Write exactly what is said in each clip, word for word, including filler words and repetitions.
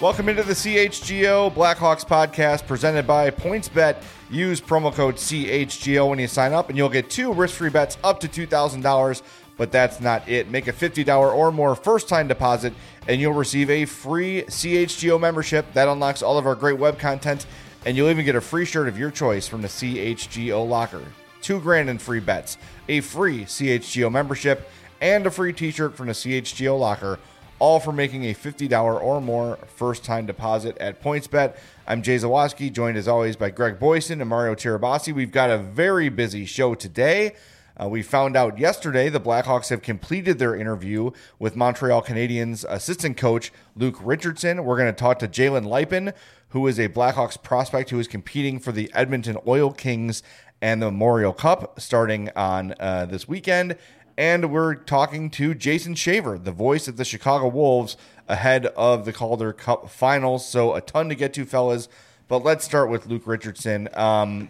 Welcome into the C H G O Blackhawks podcast presented by PointsBet. Use promo code C H G O when you sign up, and you'll get two risk-free bets up to two thousand dollars. But that's not it. Make a fifty dollars or more first-time deposit, and you'll receive a free C H G O membership. That unlocks all of our great web content, and you'll even get a free shirt of your choice from the C H G O locker. Two grand in free bets, a free C H G O membership, and a free t-shirt from the C H G O locker, all for making a fifty dollars or more first-time deposit at PointsBet. I'm Jay Zawaski, joined as always by Greg Boyson and Mario Tirabassi. We've got a very busy show today. Uh, we found out yesterday the Blackhawks have completed their interview with Montreal Canadiens assistant coach Luke Richardson. We're going to talk to Jalen Luypen, who is a Blackhawks prospect who is competing for the Edmonton Oil Kings and the Memorial Cup starting on uh, this weekend. And we're talking to Jason Shaver, the voice of the Chicago Wolves, ahead of the Calder Cup finals. So a ton to get to, fellas. But let's start with Luke Richardson. Um,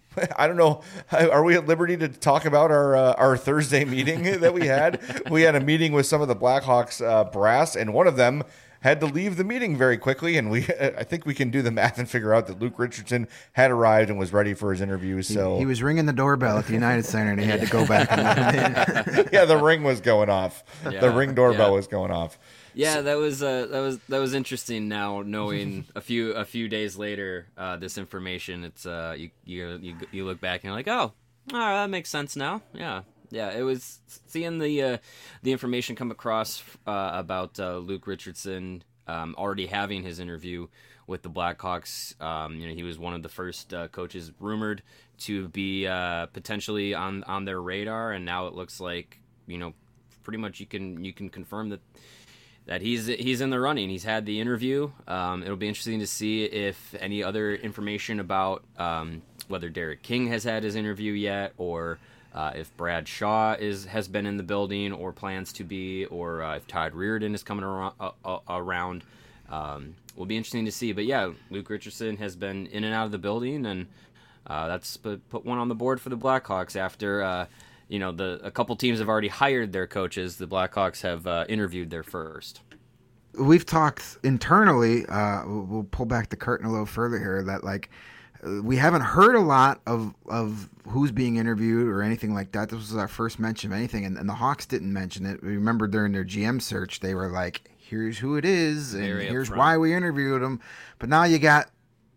I don't know. Are we at liberty to talk about our uh, our Thursday meeting that we had? We had a meeting with some of the Blackhawks uh, brass, and one of them had to leave the meeting very quickly. And we, I think we can do the math and figure out that Luke Richardson had arrived and was ready for his interview. So he, he was ringing the doorbell at the United Center, and he had to go back and let him in. Yeah, the ring was going off. Yeah, the ring doorbell yeah. was going off. Yeah, that was uh, that was that was interesting. Now knowing a few a few days later uh, this information, it's uh, you you you you look back and you're like, oh, oh, that makes sense now. Yeah, yeah. It was seeing the uh, the information come across uh, about uh, Luke Richardson um, already having his interview with the Blackhawks. Um, you know, he was one of the first uh, coaches rumored to be uh, potentially on on their radar, and now it looks like, you know, pretty much you can you can confirm that. That he's he's in the running. He's had the interview. Um, it'll be interesting to see if any other information about um, whether Derek King has had his interview yet, or uh, if Brad Shaw is has been in the building or plans to be, or uh, if Todd Reardon is coming around. Uh, around. Um, will be interesting to see. But yeah, Luke Richardson has been in and out of the building, and uh, that's put one on the board for the Blackhawks after. Uh, You know, the a couple teams have already hired their coaches. The Blackhawks have uh, interviewed their first. We've talked internally. Uh, we'll pull back the curtain a little further here. That like we haven't heard a lot of of who's being interviewed or anything like that. This was our first mention of anything, and, and the Hawks didn't mention it. We remember during their G M search, they were like, "Here's who it is, and Very here's upfront. why we interviewed him." But now you got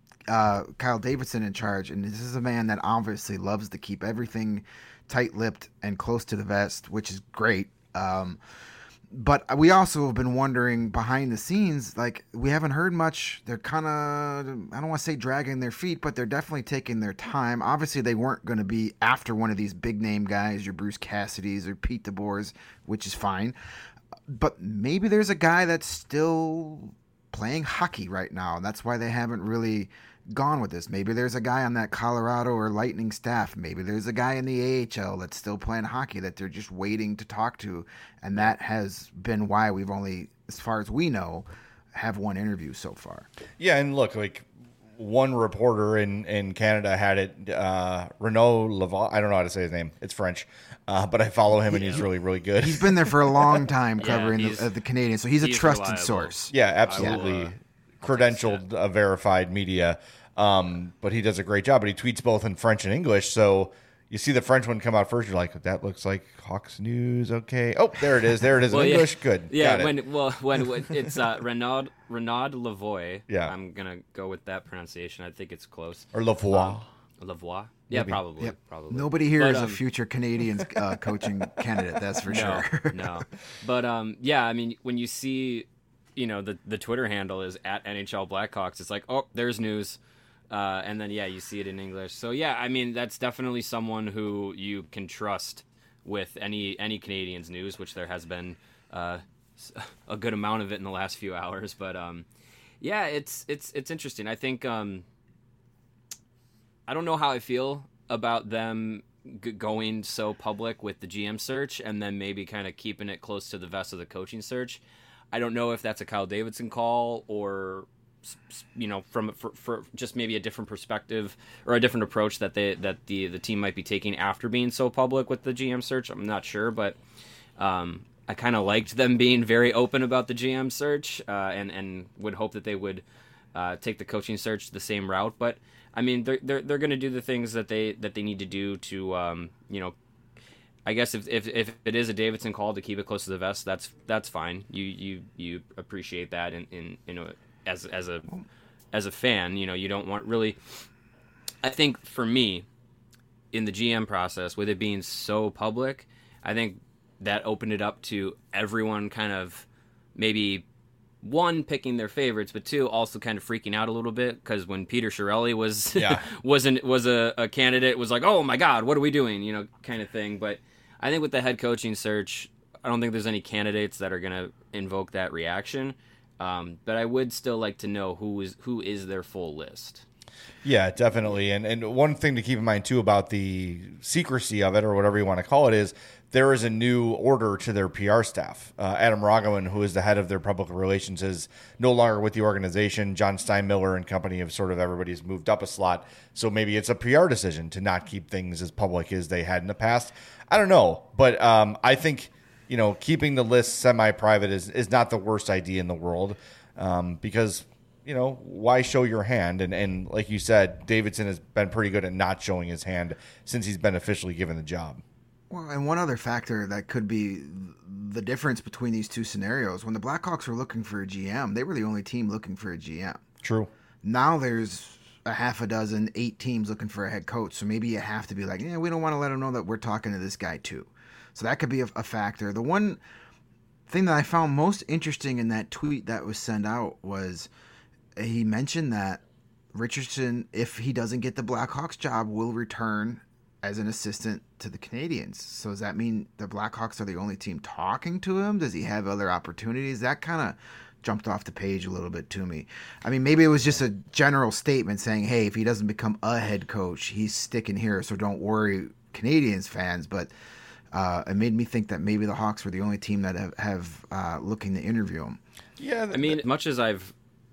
uh, Kyle Davidson in charge, and this is a man that obviously loves to keep everything tight-lipped and close to the vest, which is great. Um, but we also have been wondering behind the scenes, like we haven't heard much. They're kind of, I don't want to say dragging their feet, but they're definitely taking their time. Obviously, they weren't going to be after one of these big-name guys, your Bruce Cassidys or Pete DeBoers, which is fine. But maybe there's a guy that's still playing hockey right now, and that's why they haven't really gone with this. Maybe there's a guy on that Colorado or Lightning staff. Maybe there's a guy in the A H L that's still playing hockey that they're just waiting to talk to, and that has been why we've only, as far as we know, have one interview so far. Yeah, and look, like one reporter in, in Canada had it, uh, Renaud Laval. I don't know how to say his name. It's French, uh, but I follow him, and he's really, really good. He's been there for a long time covering yeah, the, uh, the Canadians, so he's, he's a trusted reliable. source. Yeah, absolutely. Will, uh, credentialed, uh, verified media. Um, but he does a great job, but he tweets both in French and English. So you see the French one come out first. You're like, that looks like Hawks News. Okay. Oh, there it is. There it is. well, in English. Yeah. Good. Yeah. Got when, it. well, when, when it's, uh, Renaud, Renaud Lavoie. Yeah. I'm going to go with that pronunciation. I think it's close. Or Lavoie. Um, Lavoie. Yeah, Maybe. probably. Yep. Probably. Nobody here but, is um, a future Canadians uh, coaching candidate. That's for no, sure. no. But, um, yeah, I mean, when you see, you know, the, the Twitter handle is at N H L Blackhawks, it's like, oh, there's news. Uh, and then, yeah, you see it in English. So, yeah, I mean, that's definitely someone who you can trust with any any Canadians news, which there has been uh, a good amount of it in the last few hours. But, um, yeah, it's it's it's interesting. I think um, I don't know how I feel about them g- going so public with the G M search and then maybe kind of keeping it close to the vest of the coaching search. I don't know if that's a Kyle Davidson call or, you know, from for, for just maybe a different perspective or a different approach that they that the the team might be taking after being so public with the G M search. I'm not sure, but um, I kind of liked them being very open about the G M search, uh, and and would hope that they would uh, take the coaching search the same route. But I mean, they're they're they're going to do the things that they that they need to do to um, you know. I guess if, if if it is a Davidson call to keep it close to the vest, that's that's fine. You you, you appreciate that in in, in a, as as a as a fan, you know, you don't want really. I think for me, in the G M process, with it being so public, I think that opened it up to everyone kind of maybe one picking their favorites, but two also kind of freaking out a little bit because when Peter Chiarelli was yeah. wasn't was a, a candidate, it was like, oh my God, what are we doing? You know, kind of thing. But I think with the head coaching search, I don't think there's any candidates that are going to invoke that reaction. Um, but I would still like to know who is who is their full list. Yeah, definitely. And and one thing to keep in mind, too, about the secrecy of it, or whatever you want to call it, is there is a new order to their P R staff. Uh, Adam Ragavan, who is the head of their public relations, is no longer with the organization. John Steinmiller and company have sort of everybody's moved up a slot. So maybe it's a P R decision to not keep things as public as they had in the past. I don't know. But um, I think, you know, keeping the list semi-private is, is not the worst idea in the world um, because – you know, why show your hand? And and like you said, Davidson has been pretty good at not showing his hand since he's been officially given the job. Well, and one other factor that could be the difference between these two scenarios, when the Blackhawks were looking for a G M, they were the only team looking for a G M. True. Now there's a half a dozen, eight teams looking for a head coach. So maybe you have to be like, yeah, we don't want to let them know that we're talking to this guy too. So that could be a, a factor. The one thing that I found most interesting in that tweet that was sent out was he mentioned that Richardson, if he doesn't get the Blackhawks job, will return as an assistant to the Canadiens. So does that mean the Blackhawks are the only team talking to him? Does he have other opportunities? That kind of jumped off the page a little bit to me. I mean, maybe it was just a general statement saying, hey, if he doesn't become a head coach, he's sticking here, so don't worry, Canadiens fans. But uh, it made me think that maybe the Hawks were the only team that have, have uh, looking to interview him. Yeah, I mean, much as I've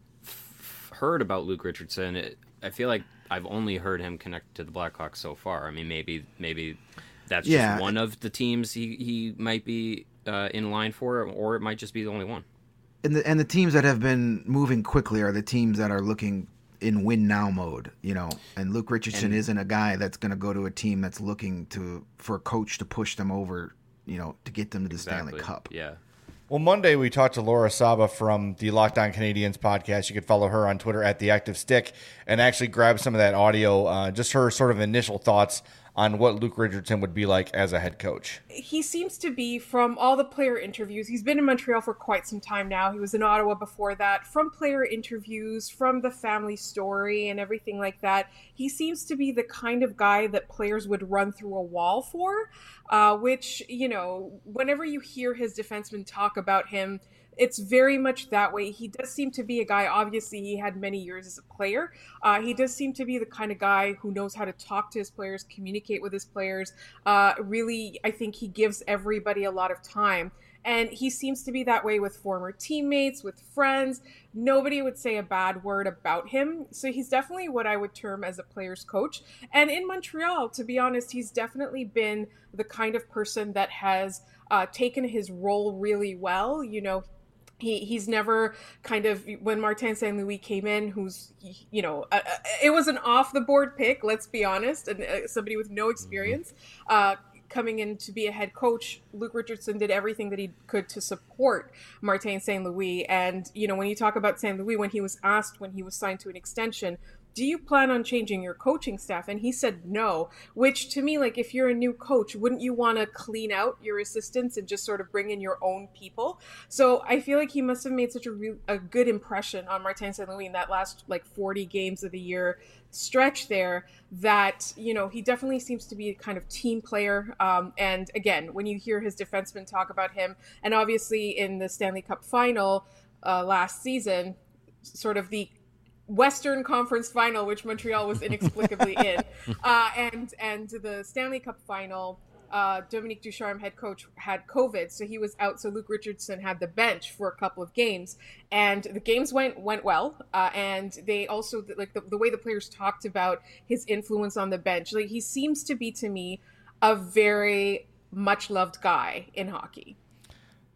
heard about Luke Richardson, it, I feel like I've only heard him connect to the Blackhawks so far. I mean, maybe maybe that's yeah. just one of the teams he, he might be uh, in line for, or it might just be the only one. And the and the teams that have been moving quickly are the teams that are looking in win now mode, you know. And Luke Richardson and, isn't a guy that's going to go to a team that's looking to for a coach to push them over, you know, to get them to the exactly. Stanley Cup. Yeah. Well, Monday we talked to Laura Saba from the Locked On Canadiens podcast. You could follow her on Twitter at The Active Stick and actually grab some of that audio, uh, just her sort of initial thoughts on what Luke Richardson would be like as a head coach. He seems to be, from all the player interviews, he's been in Montreal for quite some time now. He was in Ottawa before that. From player interviews, from the family story and everything like that, he seems to be the kind of guy that players would run through a wall for, uh, which, you know, whenever you hear his defensemen talk about him, it's very much that way. He does seem to be a guy, obviously he had many years as a player. Uh, he does seem to be the kind of guy who knows how to talk to his players, communicate with his players. Uh, really, I think he gives everybody a lot of time. And he seems to be that way with former teammates, with friends. Nobody would say a bad word about him. So he's definitely what I would term as a player's coach. And in Montreal, to be honest, he's definitely been the kind of person that has uh, taken his role really well. You know, He he's never kind of, when Martin Saint Louis came in, who's, you know, uh, it was an off the board pick, let's be honest, and uh, somebody with no experience uh, coming in to be a head coach. Luke Richardson did everything that he could to support Martin Saint Louis. And, you know, when you talk about Saint Louis, when he was asked when he was signed to an extension, do you plan on changing your coaching staff? And he said no, which to me, like, if you're a new coach, wouldn't you want to clean out your assistants and just sort of bring in your own people? So I feel like he must have made such a, re- a good impression on Martin Saint Louis in that last like forty games of the year stretch there that, you know, he definitely seems to be a kind of team player. Um, and again, when you hear his defensemen talk about him, and obviously in the Stanley Cup final uh, last season, sort of the Western Conference Final, which Montreal was inexplicably in, uh, and and the Stanley Cup Final, uh, Dominique Ducharme, head coach, had COVID, so he was out. So Luke Richardson had the bench for a couple of games, and the games went went well. Uh, and they also, like the, the way the players talked about his influence on the bench, like he seems to be, to me, a very much loved guy in hockey.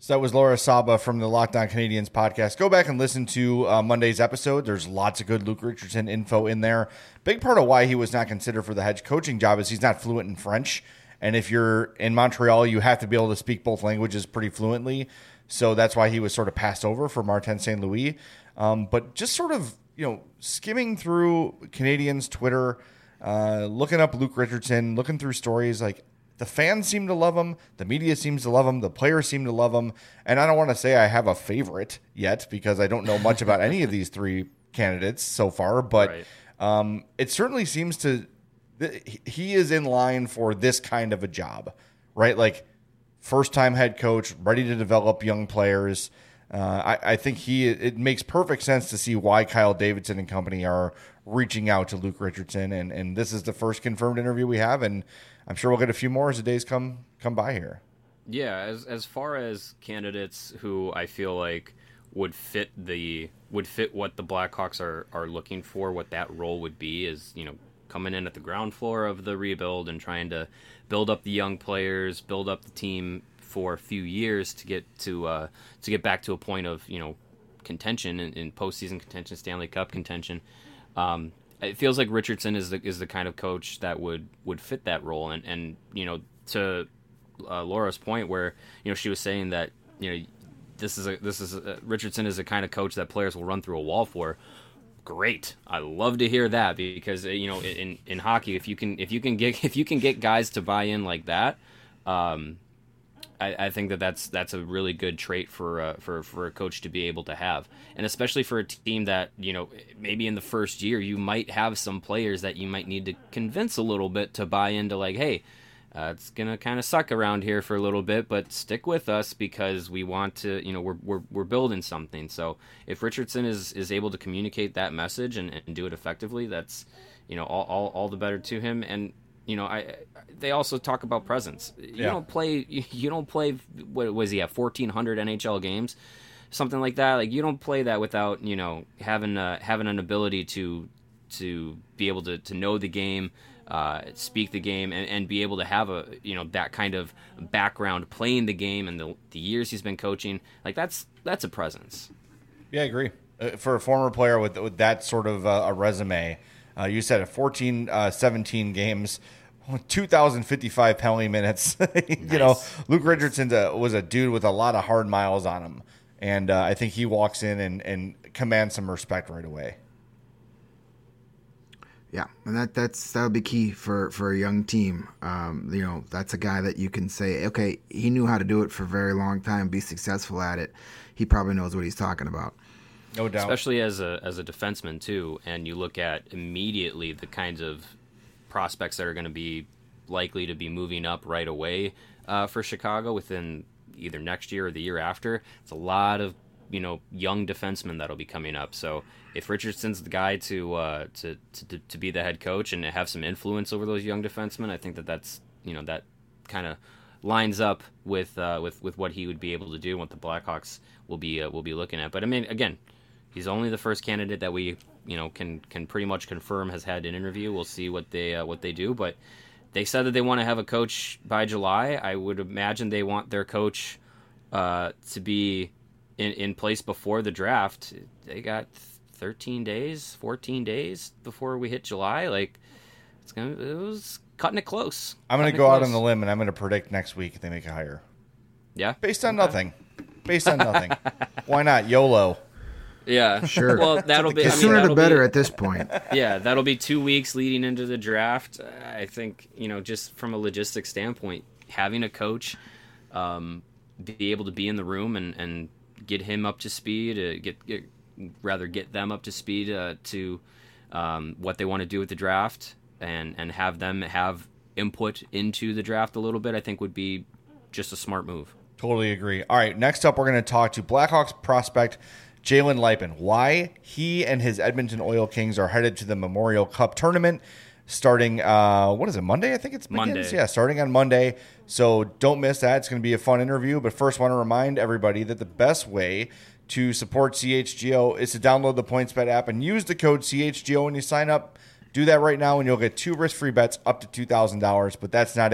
So that was Laura Saba from the Locked On Canadiens podcast. Go back and listen to uh, Monday's episode. There's lots of good Luke Richardson info in there. Big part of why he was not considered for the head coaching job is he's not fluent in French. And if you're in Montreal, you have to be able to speak both languages pretty fluently. So that's why he was sort of passed over for Martin Saint Louis. Um, but just sort of, you know, skimming through Canadiens Twitter, uh, looking up Luke Richardson, looking through stories, like, the fans seem to love him. The media seems to love him. The players seem to love him. And I don't want to say I have a favorite yet because I don't know much about any of these three candidates so far. But Right. um, it certainly seems to – he is in line for this kind of a job, right? Like first-time head coach, ready to develop young players. Uh, I, I think he it makes perfect sense to see why Kyle Davidson and company are reaching out to Luke Richardson. And, and this is the first confirmed interview we have. And I'm sure we'll get a few more as the days come come by here. Yeah, as as far as candidates who I feel like would fit the would fit what the Blackhawks are are looking for, what that role would be is, you know, coming in at the ground floor of the rebuild and trying to build up the young players, build up the team for a few years to get to uh, to get back to a point of, you know, contention in, in postseason contention, Stanley Cup contention. Um, It feels like Richardson is the is the kind of coach that would, would fit that role, and and you know, to uh, Laura's point where, you know, she was saying that, you know, this is a this is a, Richardson is the kind of coach that players will run through a wall for. Great, I love to hear that, because, you know, in, in hockey, if you can if you can get if you can get guys to buy in like that, um, I, I think that that's that's a really good trait for uh, for for a coach to be able to have, and especially for a team that, you know, maybe in the first year you might have some players that you might need to convince a little bit to buy into, like, hey, uh, it's gonna kind of suck around here for a little bit, but stick with us because we want to, you know, we're we're we're building something. So if Richardson is is able to communicate that message and, and do it effectively, that's, you know, all all, all the better to him. And you know, I they also talk about presence. You Yeah. don't play. You don't play. What was he at? fourteen hundred N H L games, something like that. Like, you don't play that without, you know, having uh, having an ability to to be able to, to know the game, uh, speak the game, and, and be able to have a, you know, that kind of background playing the game and the the years he's been coaching. Like, that's that's a presence. Yeah, I agree. Uh, for a former player with with that sort of uh, a resume, uh, you said at fourteen, uh, seventeen games, two thousand fifty-five penalty minutes. you Nice. know, Luke Richardson was a dude with a lot of hard miles on him. And uh, I think he walks in and, and commands some respect right away. Yeah, and that that's that would be key for, for a young team. Um, you know, that's a guy that you can say, okay, he knew how to do it for a very long time, be successful at it. He probably knows what he's talking about. No doubt. Especially as a as a defenseman too, and you look at immediately the kinds of prospects that are going to be likely to be moving up right away uh, for Chicago within either next year or the year after. It's a lot of, you know, young defensemen that'll be coming up. So if Richardson's the guy to uh, to, to to be the head coach and have some influence over those young defensemen, I think that that's, you know, that kind of lines up with uh, with with what he would be able to do and what the Blackhawks will be uh, will be looking at. But I mean, again, he's only the first candidate that we, you know, can can pretty much confirm has had an interview. We'll see what they uh, what they do, but they said that they want to have a coach by July. I would imagine they want their coach uh, to be in, in place before the draft. They got thirteen days, fourteen days before we hit July. Like, it's gonna, it was cutting it close. I'm going to Cutting go it out close. on the limb and I'm going to predict next week they make a hire. Yeah, Based on nothing. Based on nothing. Why not? YOLO. yeah, Sure. Well, that'll be The I mean, sooner the that'll better be- at this point. Yeah, that'll be two weeks leading into the draft. I think, you know, just from a logistics standpoint, having a coach um, be able to be in the room and, and get him up to speed, uh, get, get rather get them up to speed uh, to um, what they want to do with the draft, and, and have them have input into the draft a little bit, I think would be just a smart move. Totally agree. All right, next up, we're going to talk to Blackhawks prospect Jalen Lipin. Why he and his Edmonton Oil Kings are headed to the Memorial Cup tournament starting, uh, what is it, Monday? I think it's begins? Monday. Yeah, starting on Monday. So don't miss that. It's going to be a fun interview. But first, want to remind everybody that the best way to support C H G O is to download the PointsBet app and use the code C H G O when you sign up. Do that right now and you'll get two risk-free bets up to two thousand dollars. But that's not it.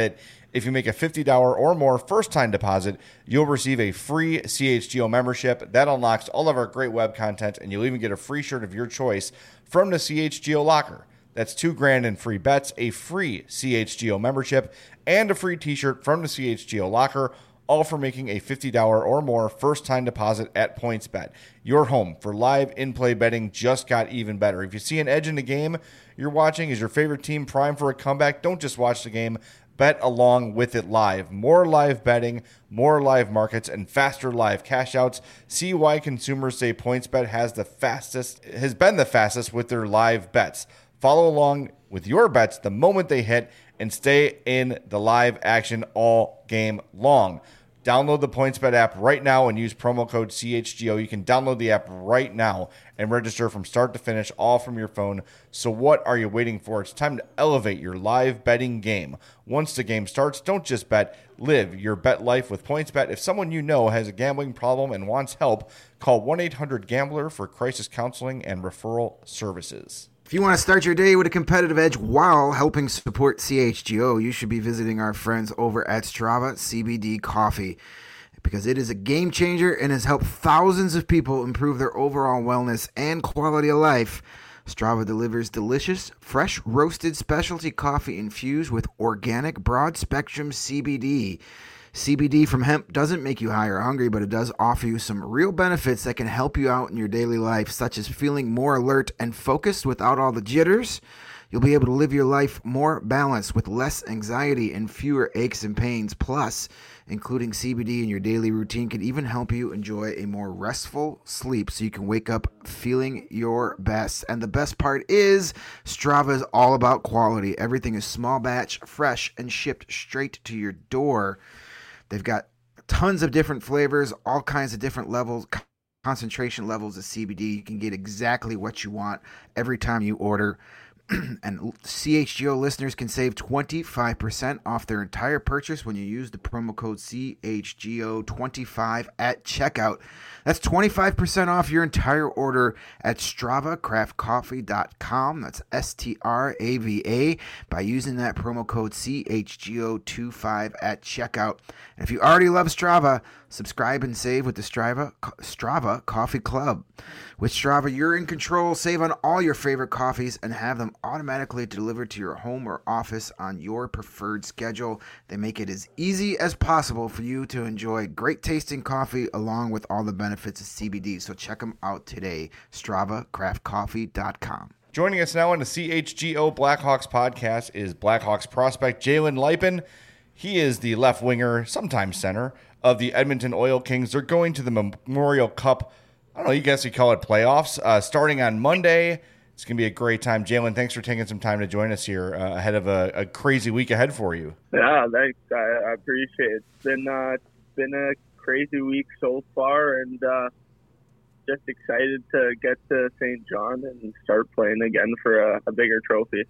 If you make a fifty dollars or more first-time deposit, you'll receive a free C H G O membership. That unlocks all of our great web content, and you'll even get a free shirt of your choice from the C H G O locker. That's two grand in free bets, a free C H G O membership, and a free t-shirt from the C H G O locker, all for making a fifty dollars or more first-time deposit at PointsBet. Your home for live in-play betting just got even better. If you see an edge in the game you're watching, is your favorite team primed for a comeback? Don't just watch the game. Bet along with it live. More live betting, more live markets, and faster live cash outs. See why consumers say PointsBet has the fastest, has been the fastest with their live bets. Follow along with your bets the moment they hit and stay in the live action all game long. Download the PointsBet app right now and use promo code C H G O. You can download the app right now and register from start to finish, all from your phone. So what are you waiting for? It's time to elevate your live betting game. Once the game starts, don't just bet. Live your bet life with PointsBet. If someone you know has a gambling problem and wants help, call one eight hundred gambler for crisis counseling and referral services. If you want to start your day with a competitive edge while helping support C H G O, you should be visiting our friends over at Strava C B D Coffee, because it is a game changer and has helped thousands of people improve their overall wellness and quality of life. Strava delivers delicious, fresh roasted specialty coffee infused with organic broad-spectrum C B D. C B D from hemp doesn't make you high or hungry, but it does offer you some real benefits that can help you out in your daily life, such as feeling more alert and focused without all the jitters. You'll be able to live your life more balanced with less anxiety and fewer aches and pains. Plus, including C B D in your daily routine can even help you enjoy a more restful sleep so you can wake up feeling your best. And the best part is, Strava is all about quality. Everything is small batch, fresh, and shipped straight to your door. They've got tons of different flavors, all kinds of different levels, concentration levels of C B D. You can get exactly what you want every time you order. And C H G O listeners can save twenty-five percent off their entire purchase when you use the promo code C H G O twenty-five at checkout. That's twenty-five percent off your entire order at strava craft coffee dot com. That's S T R A V A by using that promo code C H G O twenty-five at checkout. And if you already love Strava, subscribe and save with the Strava, Strava Coffee Club. With Strava, you're in control. Save on all your favorite coffees and have them automatically delivered to your home or office on your preferred schedule. They make it as easy as possible for you to enjoy great tasting coffee along with all the benefits of C B D. So check them out today. strava craft coffee dot com. Joining us now on the C H G O Blackhawks podcast is Blackhawks prospect Jalen Luypen. He is the left winger, sometimes center, of the Edmonton Oil Kings. They're going to the Memorial Cup, I don't know, you guys could call it playoffs, uh, starting on Monday. It's going to be a great time. Jalen, thanks for taking some time to join us here uh, ahead of a, a crazy week ahead for you. Yeah, thanks. I, I appreciate it. It's been, uh, it's been a crazy week so far, and uh, just excited to get to Saint John and start playing again for a, a bigger trophy.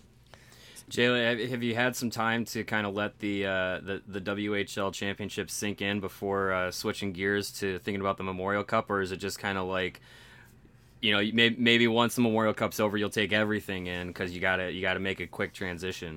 Jalen, have you had some time to kind of let the uh, the, the W H L championship sink in before uh, switching gears to thinking about the Memorial Cup, or is it just kind of like, you know, maybe, maybe once the Memorial Cup's over, you'll take everything in because you gotta you gotta make a quick transition?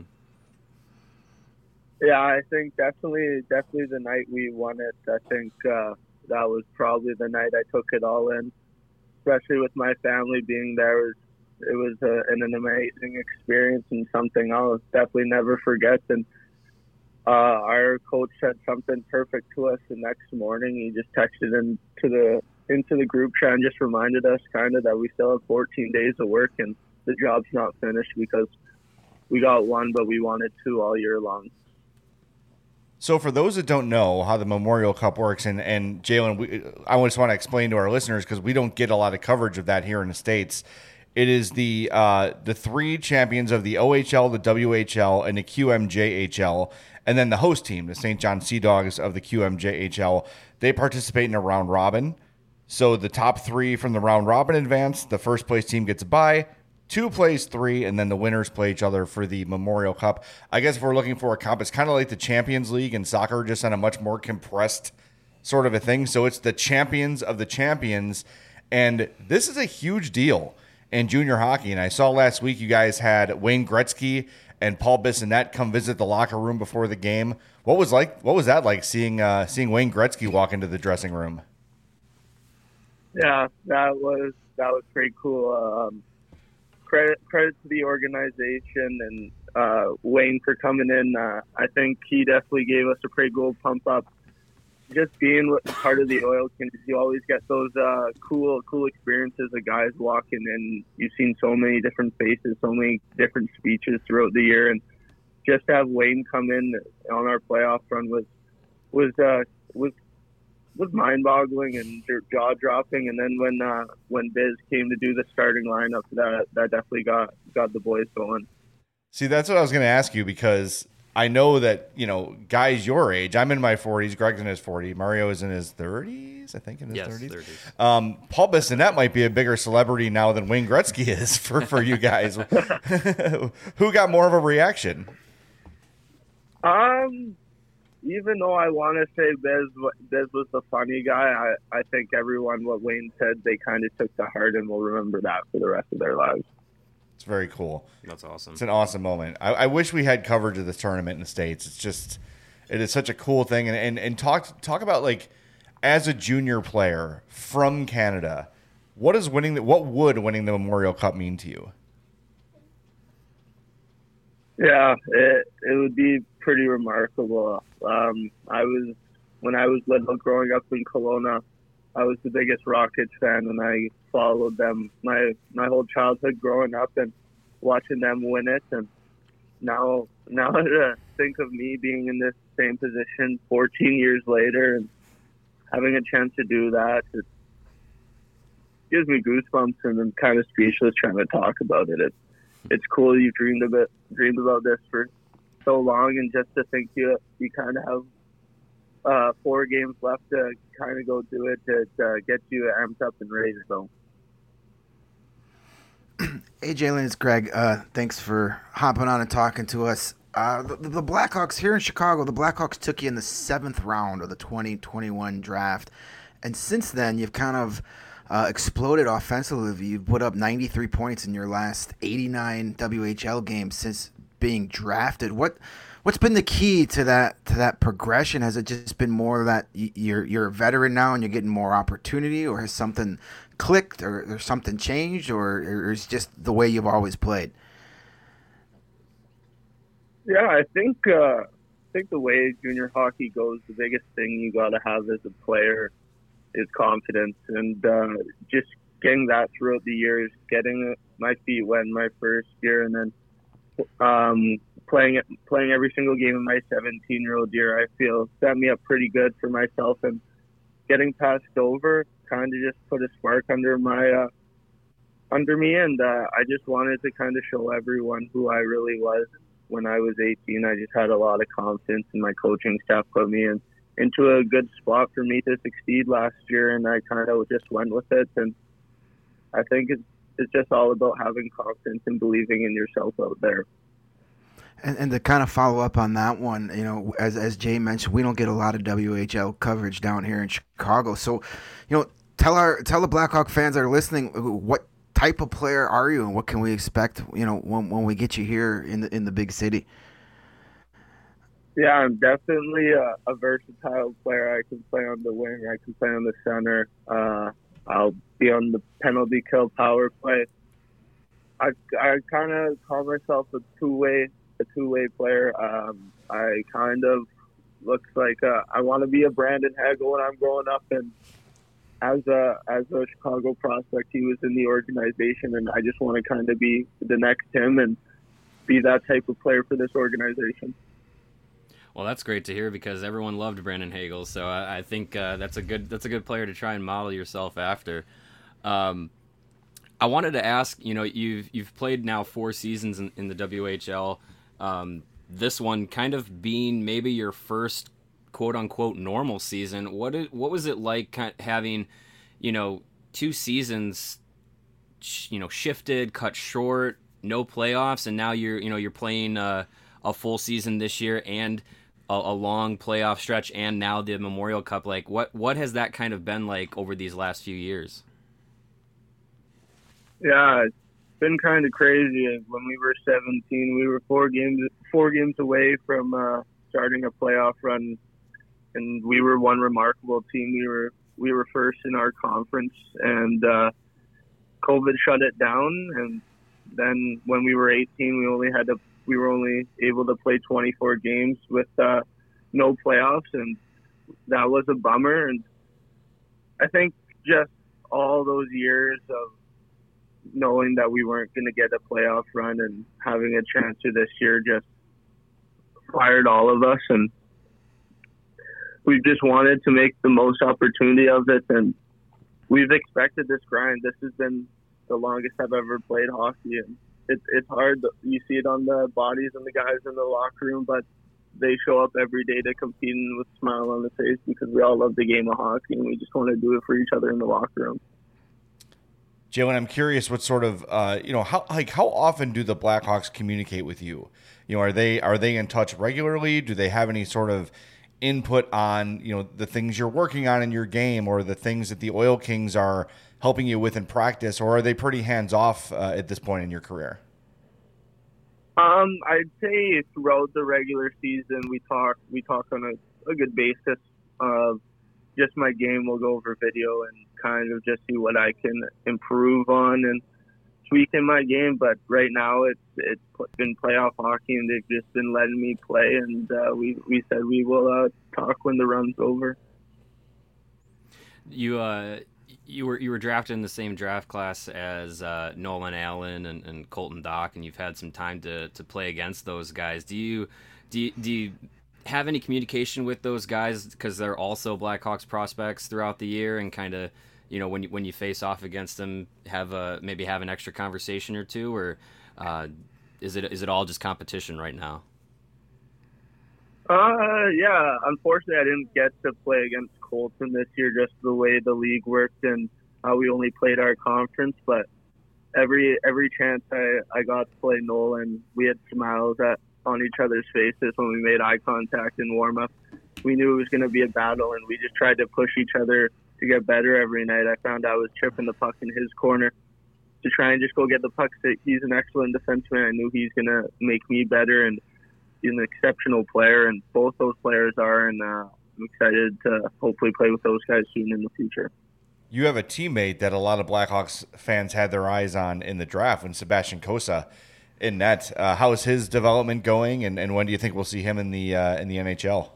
Yeah, I think definitely definitely the night we won it, I think uh, that was probably the night I took it all in, especially with my family being there. It was a, an, an amazing experience and something I'll definitely never forget. And uh, our coach said something perfect to us the next morning. He just texted into the into the group chat and just reminded us kind of that we still have fourteen days of work and the job's not finished because we got one, but we wanted two all year long. So for those that don't know how the Memorial Cup works, and, and Jalen, we, I just want to explain to our listeners because we don't get a lot of coverage of that here in the States. It is the uh, the three champions of the O H L, the W H L, and the Q M J H L, and then the host team, the Saint John Sea Dogs of the Q M J H L. They participate in a round robin. So the top three from the round robin advance. The first place team gets a bye. Two plays three, and then the winners play each other for the Memorial Cup. I guess if we're looking for a comp, it's kind of like the Champions League in soccer, just on a much more compressed sort of a thing. So it's the champions of the champions, and this is a huge deal. in junior hockey. And I saw last week you guys had Wayne Gretzky and Paul Bissonnette come visit the locker room before the game. What was like? What was that like seeing uh, seeing Wayne Gretzky walk into the dressing room? Yeah, that was that was pretty cool. Um, credit credit to the organization and uh, Wayne for coming in. Uh, I think he definitely gave us a pretty cool pump up. Just being part of the Oil Kings, you always get those uh, cool, cool experiences of guys walking in. You've seen so many different faces, so many different speeches throughout the year, and just to have Wayne come in on our playoff run was was uh, was was mind-boggling and jaw-dropping. And then when uh, when Biz came to do the starting lineup, that that definitely got got the boys going. See, that's what I was going to ask you, because I know that, you know, guys your age, I'm in my forties, Greg's in his forties, Mario is in his thirties, I think in his yes, thirties. thirties. Um, Paul Bissonnette might be a bigger celebrity now than Wayne Gretzky is for, for you guys. Who got more of a reaction? Um, even though I want to say Biz, Biz was the funny guy, I, I think everyone, what Wayne said, they kind of took to heart and will remember that for the rest of their lives. It's very cool. That's awesome. It's an awesome moment. I, I wish we had coverage of this tournament in the States. It's just, it is such a cool thing. And, and, and talk, talk about, like, as a junior player from Canada, what is winning the, what would winning the Memorial Cup mean to you? Yeah, it, it would be pretty remarkable. Um, I was, when I was little growing up in Kelowna, I was the biggest Rockets fan, and I followed them my my whole childhood growing up and watching them win it. And now, now to think of me being in this same position fourteen years later and having a chance to do that, it gives me goosebumps, and I'm kind of speechless trying to talk about it. It's it's cool. You dreamed of it, dreamed about this for so long, and just to think you you kind of have uh, four games left to kind of go do it, to uh, get you amped up and ready to go. Hey, Jalen, it's Greg. Uh, thanks for hopping on and talking to us. Uh, the, the Blackhawks here in Chicago, the Blackhawks took you in the seventh round of the twenty twenty-one draft. And since then, you've kind of uh, exploded offensively. You've put up ninety-three points in your last eighty-nine W H L games since being drafted. What What's been the key to that to that progression? Has it just been more that you're you're a veteran now and you're getting more opportunity, or has something clicked, or, or something changed, or, or is it just the way you've always played? Yeah, I think uh, I think the way junior hockey goes, the biggest thing you got to have as a player is confidence, and uh, just getting that throughout the years, getting my feet wet in my first year, and then um, playing it, playing every single game in my seventeen-year-old year, I feel set me up pretty good for myself. And getting passed over kind of just put a spark under my uh, under me, and uh, I just wanted to kind of show everyone who I really was. When I was eighteen, I just had a lot of confidence, and my coaching staff put me in into a good spot for me to succeed last year, and I kind of just went with it. And I think it's it's just all about having confidence and believing in yourself out there. And, and to kind of follow up on that one, you know, as as Jay mentioned, we don't get a lot of W H L coverage down here in Chicago. So, you know, tell our tell the Blackhawk fans that are listening, what type of player are you, and what can we expect, you know, when when we get you here in the in the big city? Yeah, I'm definitely a, a versatile player. I can play on the wing, I can play on the center. Uh, I'll be on the penalty kill power play. I I kind of call myself a two way a two way player. Um, I kind of looks like uh, I want to be a Brandon Hagel when I'm growing up, and as a as a Chicago prospect, he was in the organization, and I just want to kind of be the next him and be that type of player for this organization. Well, that's great to hear, because everyone loved Brandon Hagel, so I, I think uh, that's a good that's a good player to try and model yourself after. Um, I wanted to ask, you know, you've you've played now four seasons in, in the W H L. Um, this one kind of being maybe your first quote unquote normal season. What it, what was it like kind of having, you know, two seasons, sh- you know, shifted, cut short, no playoffs, and now you're you know you're playing uh, a full season this year and a, a long playoff stretch, and now the Memorial Cup. Like, what what has that kind of been like over these last few years? Yeah, it's been kind of crazy. When we were seventeen, we were four games four games away from uh, starting a playoff run, and we were one remarkable team. We were we were first in our conference, and uh, COVID shut it down. And then when we were eighteen, we only had to we were only able to play twenty-four games with uh, no playoffs, and that was a bummer. And I think just all those years of knowing that we weren't going to get a playoff run and having a chance to this year just fired all of us, and we just wanted to make the most opportunity of it. And we've expected this grind. This has been the longest I've ever played hockey, and it, it's hard. You see it on the bodies and the guys in the locker room, but they show up every day to compete and with a smile on the face because we all love the game of hockey and we just want to do it for each other in the locker room. Jalen, I'm curious what sort of, uh, you know, how like how often do the Blackhawks communicate with you? You know, are they are they in touch regularly? Do they have any sort of input on, you know, the things you're working on in your game or the things that the Oil Kings are helping you with in practice, or are they pretty hands off uh, at this point in your career? Um, I'd say throughout the regular season, we talk we talk on a, a good basis of just my game. We'll go over video and kind of just see what I can improve on and tweak in my game. But right now, it's it's been playoff hockey, and they've just been letting me play. And uh, we we said we will uh, talk when the run's over. You uh. You were you were drafted in the same draft class as uh, Nolan Allen and, and Colton Dach, and you've had some time to, to play against those guys. Do you do you, do you have any communication with those guys because they're also Blackhawks prospects throughout the year, and kind of, you know, when you when you face off against them, have a maybe have an extra conversation or two, or uh, is it is it all just competition right now? Uh, yeah. Unfortunately, I didn't get to play against Colton this year, just the way the league worked and how we only played our conference. But every every chance I, I got to play Nolan, we had smiles at, on each other's faces when we made eye contact in warm up. We knew it was going to be a battle, and we just tried to push each other to get better every night. I found I was chipping the puck in his corner to try and just go get the puck. He's an excellent defenseman. I knew he's going to make me better, and he's an exceptional player, and both those players are, and uh, I'm excited to hopefully play with those guys soon in the future. You have a teammate that a lot of Blackhawks fans had their eyes on in the draft when Sebastian Cossa in net. Uh, how is his development going, and, and when do you think we'll see him in the uh, in the N H L?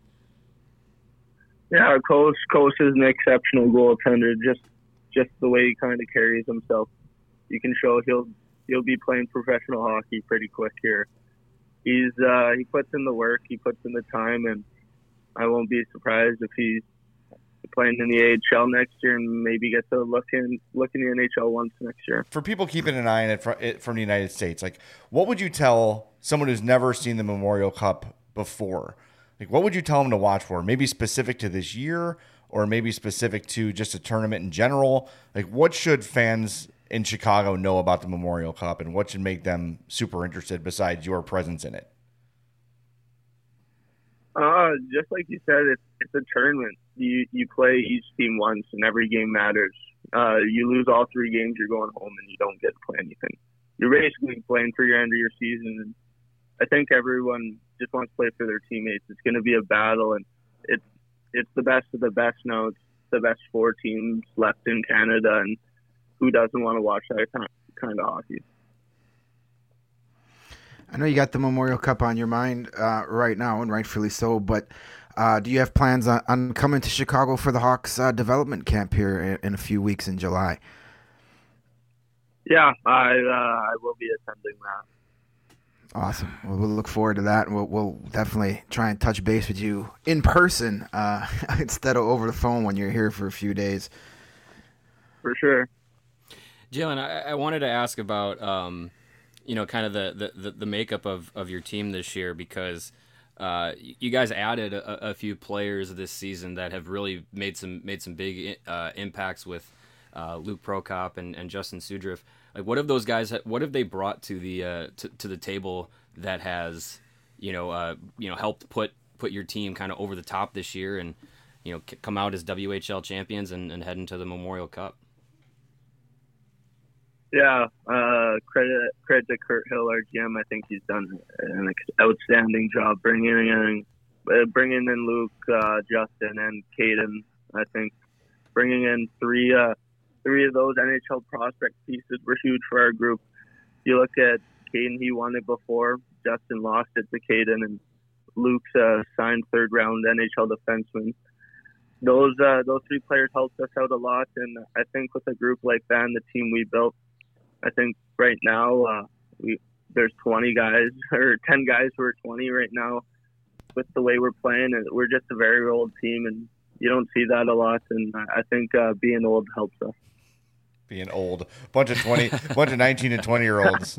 Yeah, Cossa Cossa is an exceptional goaltender. Just just the way he kind of carries himself, you can show he'll he'll be playing professional hockey pretty quick here. He's uh, he puts in the work, he puts in the time, and I won't be surprised if he's playing in the A H L next year and maybe get to look in look in the N H L once next year. For people keeping an eye on it from, it from the United States, like what would you tell someone who's never seen the Memorial Cup before? Like what would you tell them to watch for? Maybe specific to this year, or maybe specific to just a tournament in general. Like what should fans in Chicago know about the Memorial Cup, and what should make them super interested besides your presence in it? Uh, just like you said, it's it's a tournament. You you play each team once, and every game matters. Uh, you lose all three games, you're going home, and you don't get to play anything. You're basically playing for your end of your season. And I think everyone just wants to play for their teammates. It's going to be a battle, and it's it's the best of the best now. It's the best four teams left in Canada, and who doesn't want to watch that kind of hockey? I know you got the Memorial Cup on your mind uh, right now, and rightfully so, but uh, do you have plans on, on coming to Chicago for the Hawks uh, development camp here in, in a few weeks in July? Yeah, I uh, I will be attending that. Awesome. Well, we'll look forward to that, and we'll, we'll definitely try and touch base with you in person uh, instead of over the phone when you're here for a few days. For sure. Jalen, I, I wanted to ask about um, you know, kind of the, the, the makeup of, of your team this year, because uh, you guys added a, a few players this season that have really made some made some big uh, impacts with uh, Luke Prokop and, and Justin Sudriff. Like, what have those guys? What have they brought to the uh, to, to the table that has you know uh, you know helped put put your team kind of over the top this year, and you know come out as W H L champions and, and head into the Memorial Cup? Yeah, uh, credit credit to Kurt Hill, our G M. I think he's done an outstanding job bringing in uh, bringing in Luke, uh, Justin, and Caden. I think bringing in three uh, three of those N H L prospect pieces were huge for our group. You look at Caden; he won it before. Justin lost it to Caden, and Luke's uh, signed third round N H L defenseman. Those uh, those three players helped us out a lot, and I think with a group like that and the team we built, I think right now uh, we there's twenty guys or ten guys who are twenty right now. With the way we're playing, and we're just a very old team, and you don't see that a lot. And I think uh, being old helps us. Being old, bunch of twenty, bunch of nineteen and twenty year olds.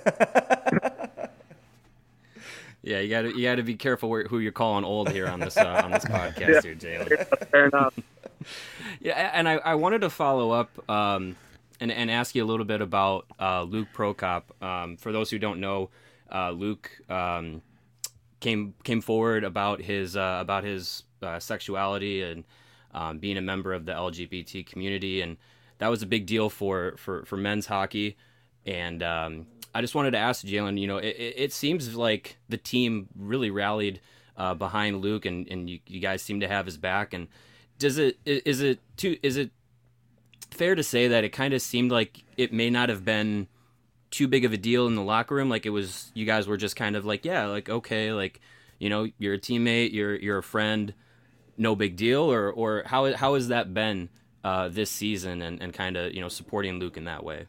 Yeah, you got to you got to be careful where, who you're calling old here on this uh, on this podcast here, Jalen. Fair enough. Yeah, and I, I wanted to follow up um, and and ask you a little bit about uh, Luke Prokop. Um, for those who don't know, uh, Luke um, came came forward about his uh, about his uh, sexuality and um, being a member of the L G B T community, and that was a big deal for for, for men's hockey. And um, I just wanted to ask Jalen, you know, it, it seems like the team really rallied uh, behind Luke, and, and you, you guys seem to have his back. And does it is it too is it fair to say that it kind of seemed like it may not have been too big of a deal in the locker room? Like it was, you guys were just kind of like, yeah, like okay, like you know, you're a teammate, you're you're a friend, no big deal, or or how how has that been uh, this season, and, and kind of you know supporting Luke in that way?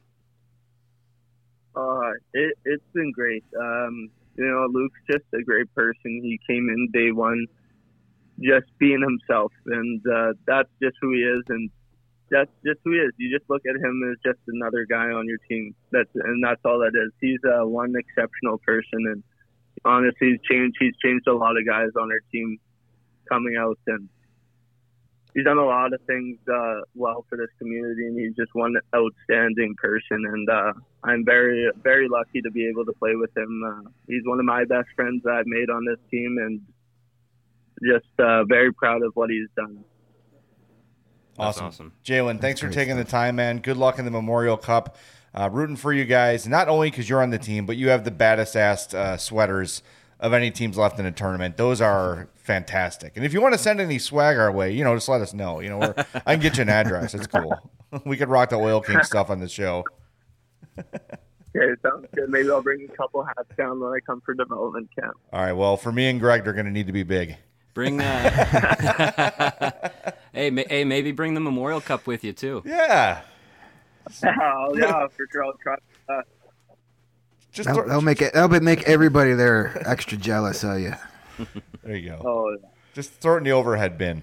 Uh, it, it's been great. Um, you know, Luke's just a great person. He came in day one just being himself, and uh, that's just who he is, and that's just who he is. You just look at him as just another guy on your team. That's and that's all that is. He's uh, one exceptional person, and honestly, he's changed. He's changed a lot of guys on our team coming out, and he's done a lot of things uh, well for this community, and he's just one outstanding person. And uh, I'm very, very lucky to be able to play with him. Uh, he's one of my best friends that I've made on this team, and just uh, very proud of what he's done. Awesome. awesome. Jalen, thanks for taking the time, man. Good luck in the Memorial Cup. Uh, rooting for you guys, not only because you're on the team, but you have the baddest ass uh, sweaters of any teams left in a tournament. Those are fantastic. And if you want to send any swag our way, you know, just let us know. You know, we're, I can get you an address. It's cool. We could rock the Oil King stuff on the show. Okay, sounds good. Maybe I'll bring a couple hats down when I come for development camp. All right. Well, for me and Greg, they're going to need to be big. Bring that. hey, ma- hey, maybe bring the Memorial Cup with you too. Yeah. Oh, yeah, for sure. I'll try that. Just That'll, throw, that'll make it. That'll make everybody there extra jealous of you. there you go. Oh, yeah. Just throw it in the overhead bin.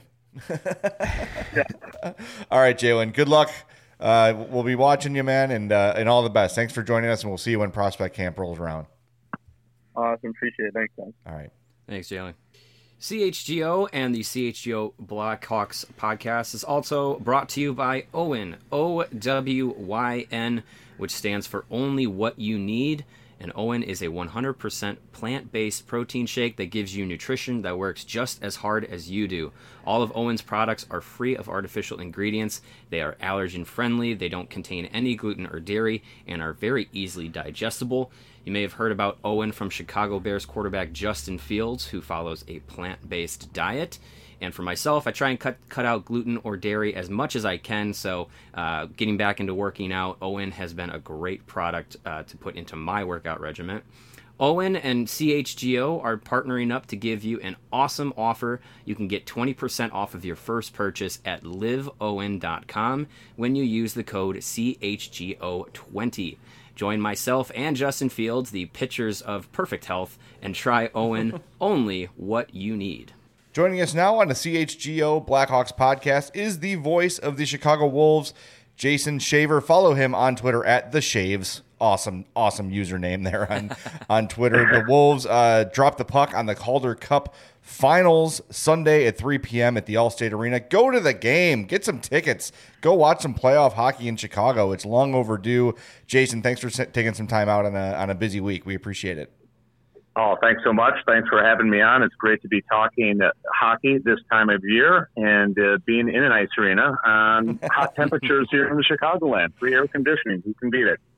All right, Jalen. Good luck. Uh, we'll be watching you, man, and uh, and all the best. Thanks for joining us, and we'll see you when Prospect Camp rolls around. Awesome. Appreciate it. Thanks, guys. All right. Thanks, Jalen. C H G O and the C H G O Blackhawks podcast is also brought to you by Owen, O W Y N, which stands for Only What You Need. And Owen is a one hundred percent plant-based protein shake that gives you nutrition that works just as hard as you do. All of Owen's products are free of artificial ingredients. They are allergen-friendly, they don't contain any gluten or dairy, and are very easily digestible. You may have heard about Owen from Chicago Bears quarterback Justin Fields, who follows a plant-based diet. And for myself, I try and cut cut out gluten or dairy as much as I can, so uh, getting back into working out, Owen has been a great product uh, to put into my workout regimen. Owen and C H G O are partnering up to give you an awesome offer. You can get twenty percent off of your first purchase at live owen dot com when you use the code C H G O twenty. Join myself and Justin Fields, the pitchers of perfect health, and try Owen, only what you need. Joining us now on the C H G O Blackhawks podcast is the voice of the Chicago Wolves, Jason Shaver. Follow him on Twitter at The Shaves. Awesome, awesome username there on, on Twitter. The Wolves uh, dropped the puck on the Calder Cup Finals Sunday at three p.m. at the Allstate Arena. Go to the game. Get some tickets. Go watch some playoff hockey in Chicago. It's long overdue. Jason, thanks for taking some time out on a, on a busy week. We appreciate it. Oh, thanks so much. Thanks for having me on. It's great to be talking uh, hockey this time of year and uh, being in an ice arena on hot temperatures here in the Chicagoland. Free air conditioning. Who can beat it?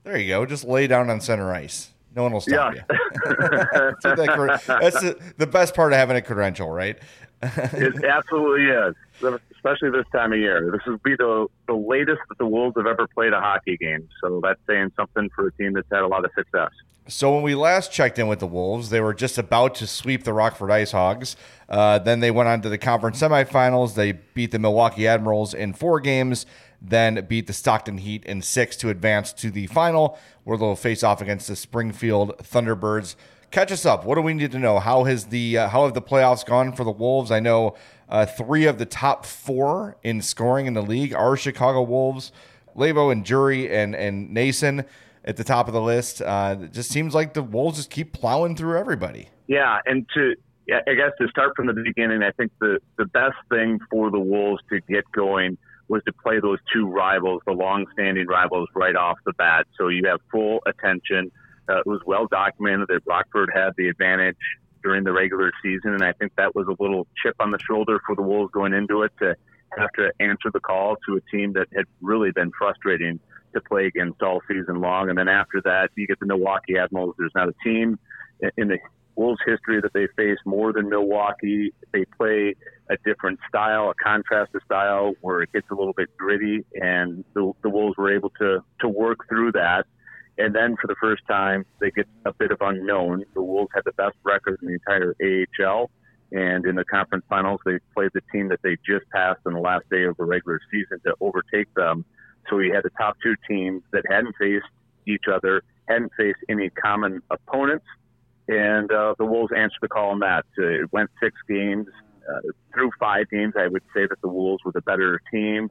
There you go. Just lay down on center ice. No one will stop Yeah. you. that's that, that's the, the best part of having a credential, right? It absolutely is, especially this time of year. This will be the, the latest that the Wolves have ever played a hockey game, so that's saying something for a team that's had a lot of success. So when we last checked in with the Wolves, they were just about to sweep the Rockford Ice Hogs. Uh, then they went on to the conference semifinals. They beat the Milwaukee Admirals in four games, then beat the Stockton Heat in six to advance to the final, where they'll face off against the Springfield Thunderbirds. Catch us up. What do we need to know? How has the uh, how have the playoffs gone for the Wolves? I know uh, three of the top four in scoring in the league are Chicago Wolves. Levo and Jury and and Nason at the top of the list. Uh, it just seems like the Wolves just keep plowing through everybody. Yeah, and to yeah, I guess to start from the beginning, I think the the best thing for the Wolves to get going was to play those two rivals, the long-standing rivals, right off the bat. So you have full attention. Uh, it was well documented that Rockford had the advantage during the regular season, and I think that was a little chip on the shoulder for the Wolves going into it to have to answer the call to a team that had really been frustrating to play against all season long. And then after that, you get the Milwaukee Admirals. There's not a team in the Wolves' history that they face more than Milwaukee. They play a different style, a contrasted style where it gets a little bit gritty, and the, the Wolves were able to, to work through that. And then for the first time, they get a bit of unknown. The Wolves had the best record in the entire A H L. And in the conference finals, they played the team that they just passed on the last day of the regular season to overtake them. So we had the top two teams that hadn't faced each other, hadn't faced any common opponents. And uh, the Wolves answered the call on that. Uh, it went six games. Uh, through five games, I would say that the Wolves were the better team.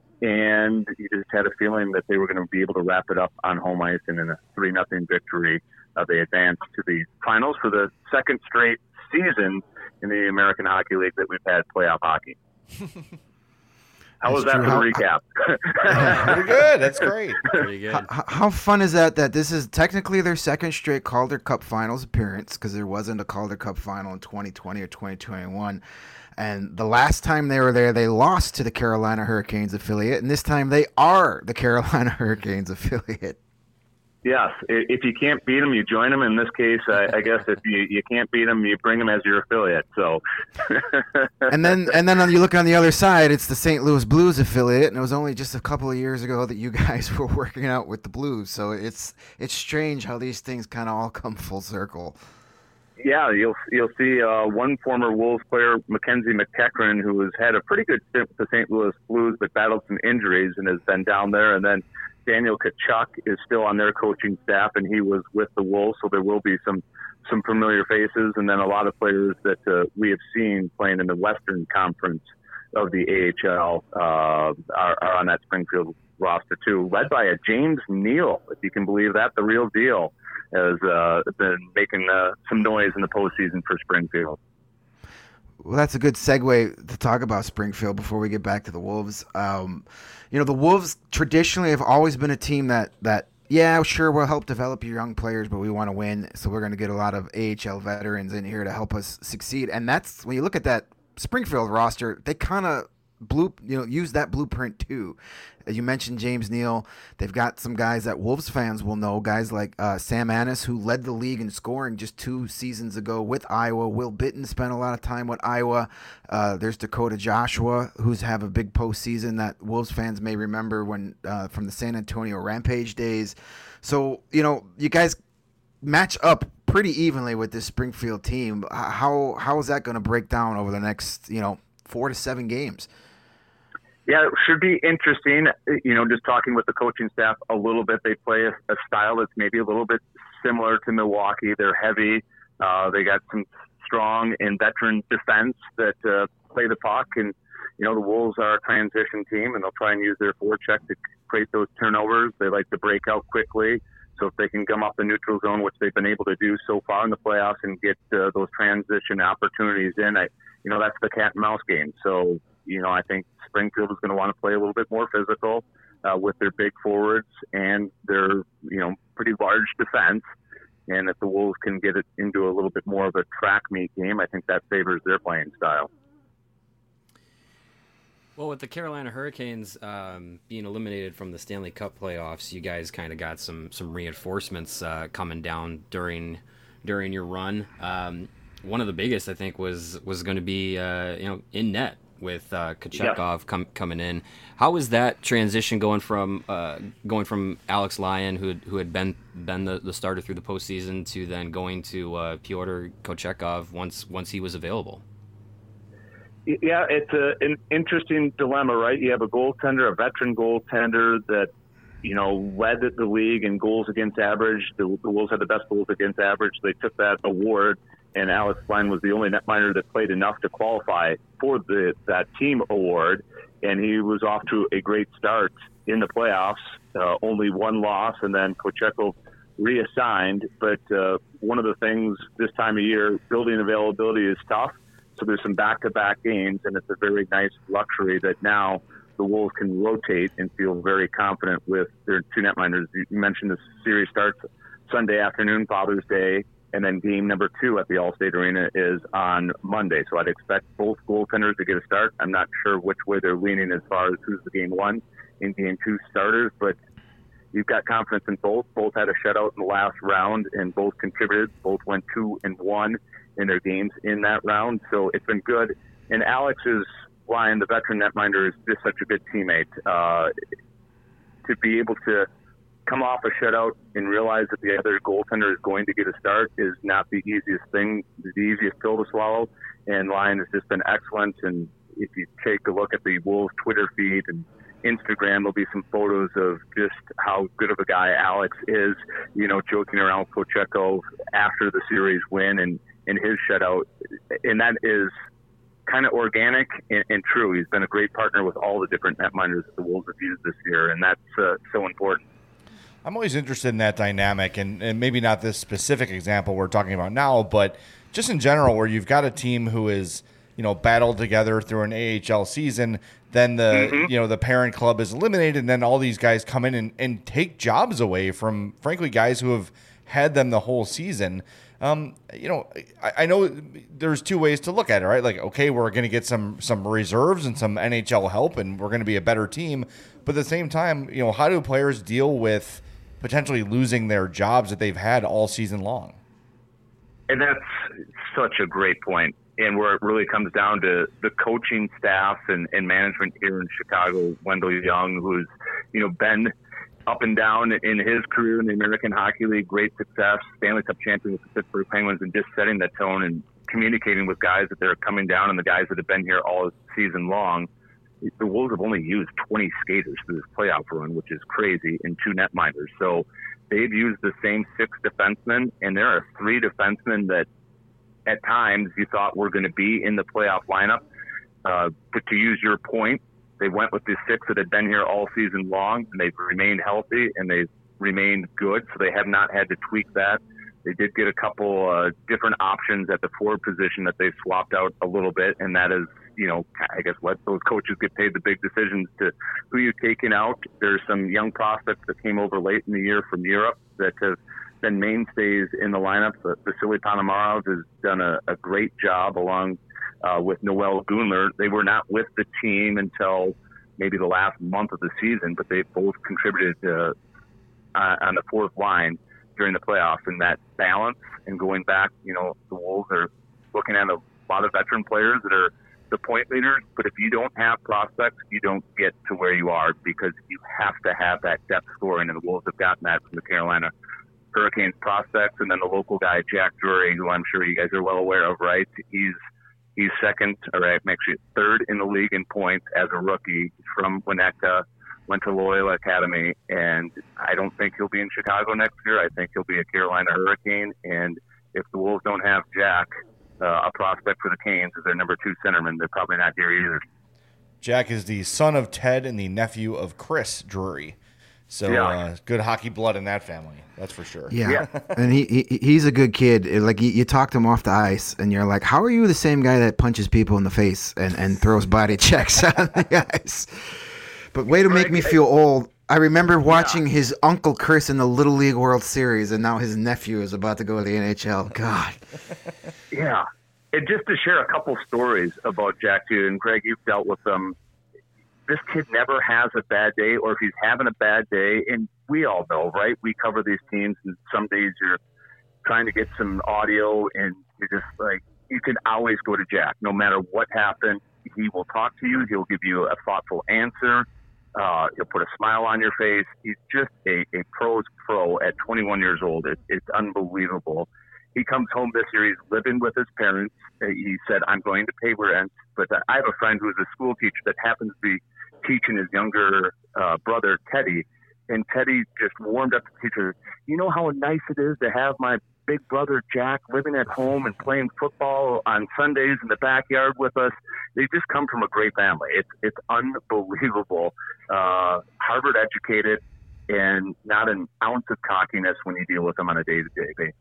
And you just had a feeling that they were going to be able to wrap it up on home ice, and in a three nothing victory, uh, they advanced to the finals for the second straight season in the American Hockey League that we've had playoff hockey. How was that for the recap? Pretty good. That's great. Pretty good. How, how fun is that? That this is technically their second straight Calder Cup Finals appearance, because there wasn't a Calder Cup Final in twenty twenty or twenty twenty-one. And the last time they were there, they lost to the Carolina Hurricanes affiliate, and this time they are the Carolina Hurricanes affiliate. Yes, if you can't beat them, you join them. In this case, I, I guess if you, you can't beat them, you bring them as your affiliate. So, and then and then you look on the other side, it's the Saint Louis Blues affiliate, and it was only just a couple of years ago that you guys were working out with the Blues. So it's it's strange how these things kind of all come full circle. Yeah, you'll you'll see uh, one former Wolves player, Mackenzie McEachran, who has had a pretty good stint with the Saint Louis Blues, but battled some injuries and has been down there, and then Daniel Tkachuk is still on their coaching staff, and he was with the Wolves, so there will be some, some familiar faces, and then a lot of players that uh, we have seen playing in the Western Conference of the A H L uh, are, are on that Springfield roster too, led by a James Neal, if you can believe that, the real deal, has uh, been making uh, some noise in the postseason for Springfield. Well, that's a good segue to talk about Springfield before we get back to the Wolves. Um, you know, the Wolves traditionally have always been a team that, that yeah, sure, we'll help develop your young players, but we want to win, so we're going to get a lot of A H L veterans in here to help us succeed. And that's, when you look at that Springfield roster, they kind of blue, you know, use that blueprint too. As you mentioned, James Neal. They've got some guys that Wolves fans will know, guys like uh, Sam Annis, who led the league in scoring just two seasons ago with Iowa. Will Bitton spent a lot of time with Iowa. Uh, there's Dakota Joshua, who's have a big postseason that Wolves fans may remember when uh, from the San Antonio Rampage days. So, you know, you guys match up pretty evenly with this Springfield team. How how is that going to break down over the next, you know, four to seven games? Yeah, it should be interesting. You know, just talking with the coaching staff a little bit, they play a, a style that's maybe a little bit similar to Milwaukee. They're heavy. Uh, they got some strong and veteran defense that uh, play the puck. And, you know, the Wolves are a transition team, and they'll try and use their forecheck to create those turnovers. They like to break out quickly. So if they can come off the neutral zone, which they've been able to do so far in the playoffs, and get uh, those transition opportunities in, I, you know, that's the cat and mouse game. So, you know, I think Springfield is going to want to play a little bit more physical uh, with their big forwards and their, you know, pretty large defense. And if the Wolves can get it into a little bit more of a track meet game, I think that favors their playing style. Well, with the Carolina Hurricanes um, being eliminated from the Stanley Cup playoffs, you guys kind of got some some reinforcements uh, coming down during during your run. Um, one of the biggest, I think, was was going to be uh, you know in net with uh, Kochetkov yeah. com- coming in. How was that transition going from uh, going from Alex Lyon, who who had been been the, the starter through the postseason, to then going to uh, Pyotr Kochetkov once once he was available? Yeah, it's a, an interesting dilemma, right? You have a goaltender, a veteran goaltender that, you know, led the league in goals against average. The, the Wolves had the best goals against average. They took that award, and Alex Lyon was the only netminder that played enough to qualify for the that team award, and he was off to a great start in the playoffs. Uh, only one loss, and then Kochetkov reassigned. But uh, one of the things this time of year, building availability is tough. So there's some back-to-back games, and it's a very nice luxury that now the Wolves can rotate and feel very confident with their two netminders. You mentioned the series starts Sunday afternoon, Father's Day, and then game number two at the Allstate Arena is on Monday. So I'd expect both goaltenders to get a start. I'm not sure which way they're leaning as far as who's the game one and game two starters, but you've got confidence in both. Both had a shutout in the last round, and both contributed. Both went two and one in their games in that round. So it's been good. And Alex is, Lyon, the veteran netminder, is just such a good teammate. Uh, to be able to come off a shutout and realize that the other goaltender is going to get a start is not the easiest thing, the easiest pill to swallow. And Lyon has just been excellent. And if you take a look at the Wolves Twitter feed and Instagram, there'll be some photos of just how good of a guy Alex is, you know, joking around with Kochetkov after the series win and in his shutout, and that is kind of organic and, and true. He's been a great partner with all the different netminders that the Wolves have used this year, and that's uh, so important. I'm always interested in that dynamic, and, and maybe not this specific example we're talking about now, but just in general, where you've got a team who is, you know, battled together through an A H L season, then the mm-hmm. you know the parent club is eliminated, and then all these guys come in and, and take jobs away from, frankly, guys who have had them the whole season. Um, you know, I, I know there's two ways to look at it, right? Like, okay, we're going to get some some reserves and some N H L help, and we're going to be a better team. But at the same time, you know, how do players deal with potentially losing their jobs that they've had all season long? And that's such a great point. And where it really comes down to the coaching staff and, and management here in Chicago, Wendell Young, who's, you know, been up and down in his career in the American Hockey League, great success, Stanley Cup champion with the Pittsburgh Penguins, and just setting that tone and communicating with guys that they're coming down and the guys that have been here all season long. The Wolves have only used twenty skaters through this playoff run, which is crazy, and two netminders. So they've used the same six defensemen, and there are three defensemen that at times you thought were going to be in the playoff lineup. Uh, but to use your point, they went with the six that had been here all season long, and they've remained healthy, and they've remained good, so they have not had to tweak that. They did get a couple uh, different options at the forward position that they've swapped out a little bit, and that is, you know, I guess let those coaches get paid the big decisions to who you're taking out. There's some young prospects that came over late in the year from Europe that have been mainstays in the lineup. Vasily Ponomarev has done a, a great job along Uh, with Noel Gunler. They were not with the team until maybe the last month of the season, but they both contributed uh, on the fourth line during the playoffs. And that balance and going back, you know, the Wolves are looking at a lot of veteran players that are the point leaders, but if you don't have prospects, you don't get to where you are because you have to have that depth scoring, and the Wolves have gotten that from the Carolina Hurricanes prospects. And then the local guy, Jack Drury, who I'm sure you guys are well aware of, right? He's He's second, or actually third in the league in points as a rookie. He's from Winnetka, went to Loyola Academy, and I don't think he'll be in Chicago next year. I think he'll be a Carolina Hurricane, and if the Wolves don't have Jack, uh, a prospect for the Canes as their number two centerman, they're probably not here either. Jack is the son of Ted and the nephew of Chris Drury. So yeah. uh, good hockey blood in that family, that's for sure. Yeah, yeah. And he, he he's a good kid. Like you, you talk to him off the ice, and you're like, "How are you the same guy that punches people in the face and, and throws body checks on the ice?" But way to make me feel old. I remember watching yeah. his uncle Chris in the Little League World Series, and now his nephew is about to go to the N H L. God. Yeah, and just to share a couple stories about Jack too, and Greg, you've dealt with them. this kid never has a bad day, or if he's having a bad day, and we all know, right? We cover these teams, and some days you're trying to get some audio, and you're just like, you can always go to Jack. No matter what happened, he will talk to you. He'll give you a thoughtful answer. Uh, he'll put a smile on your face. He's just a, a pro's pro at twenty-one years old. It, it's unbelievable. He comes home this year. He's living with his parents. He said, I'm going to pay rent. But I have a friend who's a school teacher that happens to be teaching his younger uh, brother, Teddy. And Teddy just warmed up to the teacher. You know how nice it is to have my big brother, Jack, living at home and playing football on Sundays in the backyard with us. They just come from a great family. It's, it's unbelievable. Uh, Harvard educated, and not an ounce of cockiness when you deal with them on a day-to-day basis.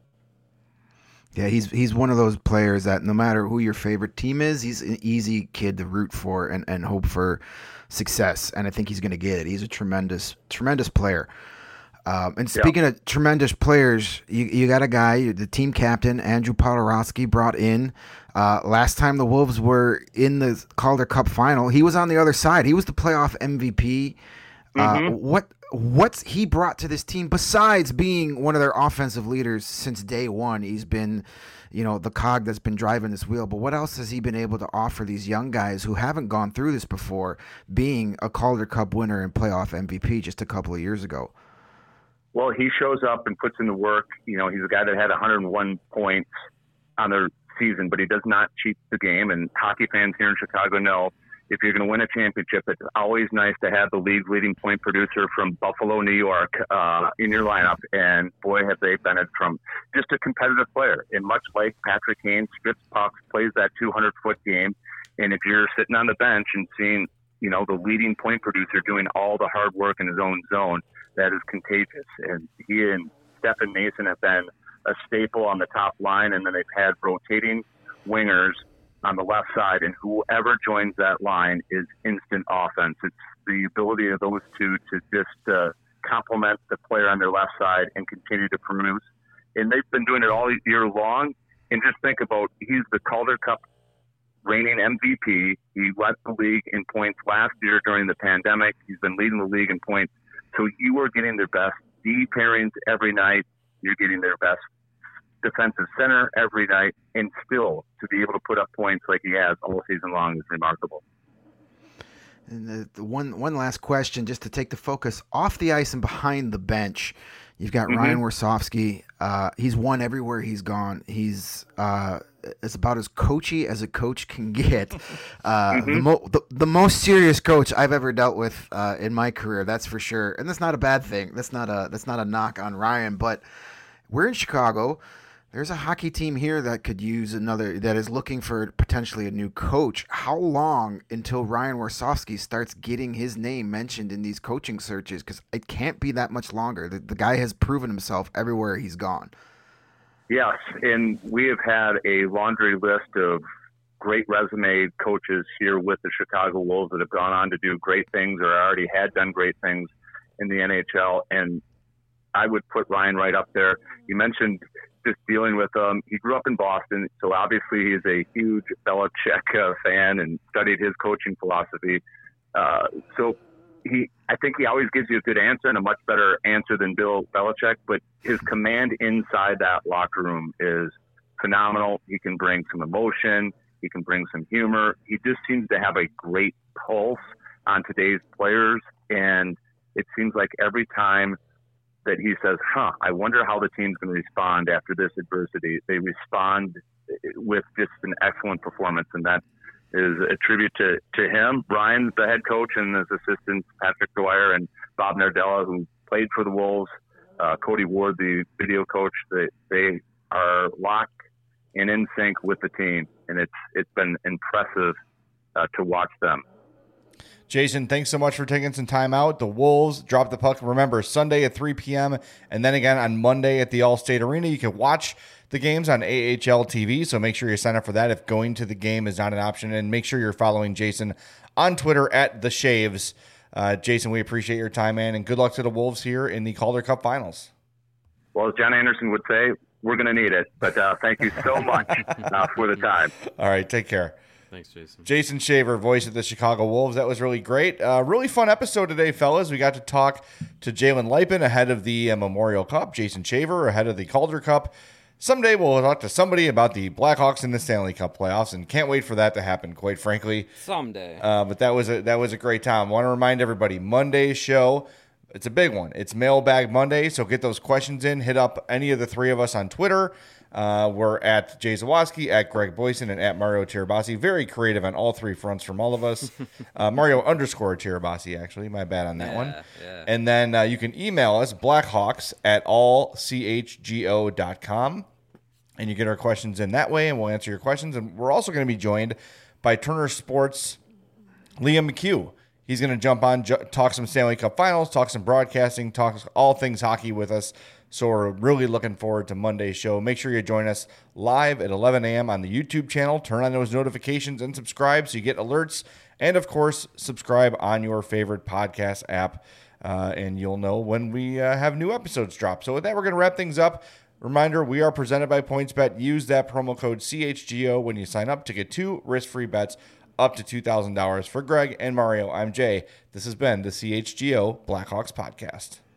Yeah, he's he's one of those players that no matter who your favorite team is, he's an easy kid to root for and, and hope for success. And I think he's going to get it. He's a tremendous, tremendous player. Um, and speaking yep. of tremendous players, you, you got a guy, the team captain, Andrew Poturalski, brought in. Uh, last time the Wolves were in the Calder Cup final, he was on the other side. He was the playoff M V P. Mm-hmm. Uh, what what's he brought to this team besides being one of their offensive leaders since day one? He's been, you know, the cog that's been driving this wheel. But what else has he been able to offer these young guys who haven't gone through this before, being a Calder Cup winner and playoff M V P just a couple of years ago? Well, he shows up and puts in the work. You know, he's a guy that had one hundred one points on their season, but he does not cheat the game. And hockey fans here in Chicago know if you're going to win a championship, it's always nice to have the league's leading point producer from Buffalo, New York, uh, in your lineup. And boy, have they benefited from just a competitive player. And much like Patrick Kane, strips pucks, plays that two hundred foot game. And if you're sitting on the bench and seeing, you know, the leading point producer doing all the hard work in his own zone, that is contagious. And he and Stephen Mason have been a staple on the top line, and then they've had rotating wingers on the left side, and whoever joins that line is instant offense. It's the ability of those two to just uh, complement the player on their left side and continue to produce. And they've been doing it all year long. And just think about, he's the Calder Cup reigning M V P. He led the league in points last year during the pandemic. He's been leading the league in points. So you are getting their best D pairings every night. You're getting their best defensive center every night, and still to be able to put up points like he has all season long is remarkable. And the, the one one last question, just to take the focus off the ice and behind the bench. You've got mm-hmm. Ryan Warsofsky. Uh, he's won everywhere he's gone. He's uh, it's about as coachy as a coach can get. Uh, mm-hmm. the, mo- the, the most serious coach I've ever dealt with uh, in my career, that's for sure. And that's not a bad thing. That's not a that's not a knock on Ryan. But we're in Chicago. There's a hockey team here that could use another, that is looking for potentially a new coach. How long until Ryan Warsofsky starts getting his name mentioned in these coaching searches? Because it can't be that much longer. The, the guy has proven himself everywhere he's gone. Yes, and we have had a laundry list of great resume coaches here with the Chicago Wolves that have gone on to do great things or already had done great things in the N H L. And I would put Ryan right up there. You mentioned just dealing with him. Um, he grew up in Boston, so obviously he's a huge Belichick uh, fan and studied his coaching philosophy. Uh, so he, I think he always gives you a good answer and a much better answer than Bill Belichick, but his command inside that locker room is phenomenal. He can bring some emotion. He can bring some humor. He just seems to have a great pulse on today's players, and it seems like every time that he says, huh, I wonder how the team's going to respond after this adversity, they respond with just an excellent performance, and that is a tribute to, to him. Brian, the head coach, and his assistants, Patrick Dwyer and Bob Nardella, who played for the Wolves, uh, Cody Ward, the video coach, they, they are locked and in sync with the team, and it's it's been impressive uh, to watch them. Jason, thanks so much for taking some time out. The Wolves drop the puck. Remember, Sunday at three p.m. and then again on Monday at the Allstate Arena. You can watch the games on A H L T V, so make sure you sign up for that if going to the game is not an option. And make sure you're following Jason on Twitter at The Shaves. Uh, Jason, we appreciate your time, man, and good luck to the Wolves here in the Calder Cup Finals. Well, as John Anderson would say, we're going to need it. But uh, thank you so much uh, for the time. All right, take care. Thanks, Jason. Jason Shaver, voice of the Chicago Wolves. That was really great. Uh, really fun episode today, fellas. We got to talk to Jalen Lipin ahead of the uh, Memorial Cup, Jason Shaver ahead of the Calder Cup. Someday we'll talk to somebody about the Blackhawks in the Stanley Cup playoffs, and can't wait for that to happen, quite frankly. Someday. Uh, but that was a that was a great time. I want to remind everybody, Monday's show, it's a big one. It's Mailbag Monday, so get those questions in. Hit up any of the three of us on Twitter. Uh, we're at Jay Zawoski, at Greg Boyson, and at Mario Tirabassi. Very creative on all three fronts from all of us. Uh, Mario underscore Tirabassi, actually. My bad on that yeah, one. Yeah. And then uh, you can email us, blackhawks at all c h g o dot com. And you get our questions in that way, and we'll answer your questions. And we're also going to be joined by Turner Sports' Liam McHugh. He's going to jump on, ju- talk some Stanley Cup Finals, talk some broadcasting, talk all things hockey with us. So we're really looking forward to Monday's show. Make sure you join us live at eleven a.m. on the YouTube channel. Turn on those notifications and subscribe so you get alerts. And, of course, subscribe on your favorite podcast app, uh, and you'll know when we uh, have new episodes drop. So with that, we're going to wrap things up. Reminder, we are presented by PointsBet. Use that promo code C H G O when you sign up to get two risk-free bets up to two thousand dollars. For Greg and Mario, I'm Jay. This has been the C H G O Blackhawks Podcast.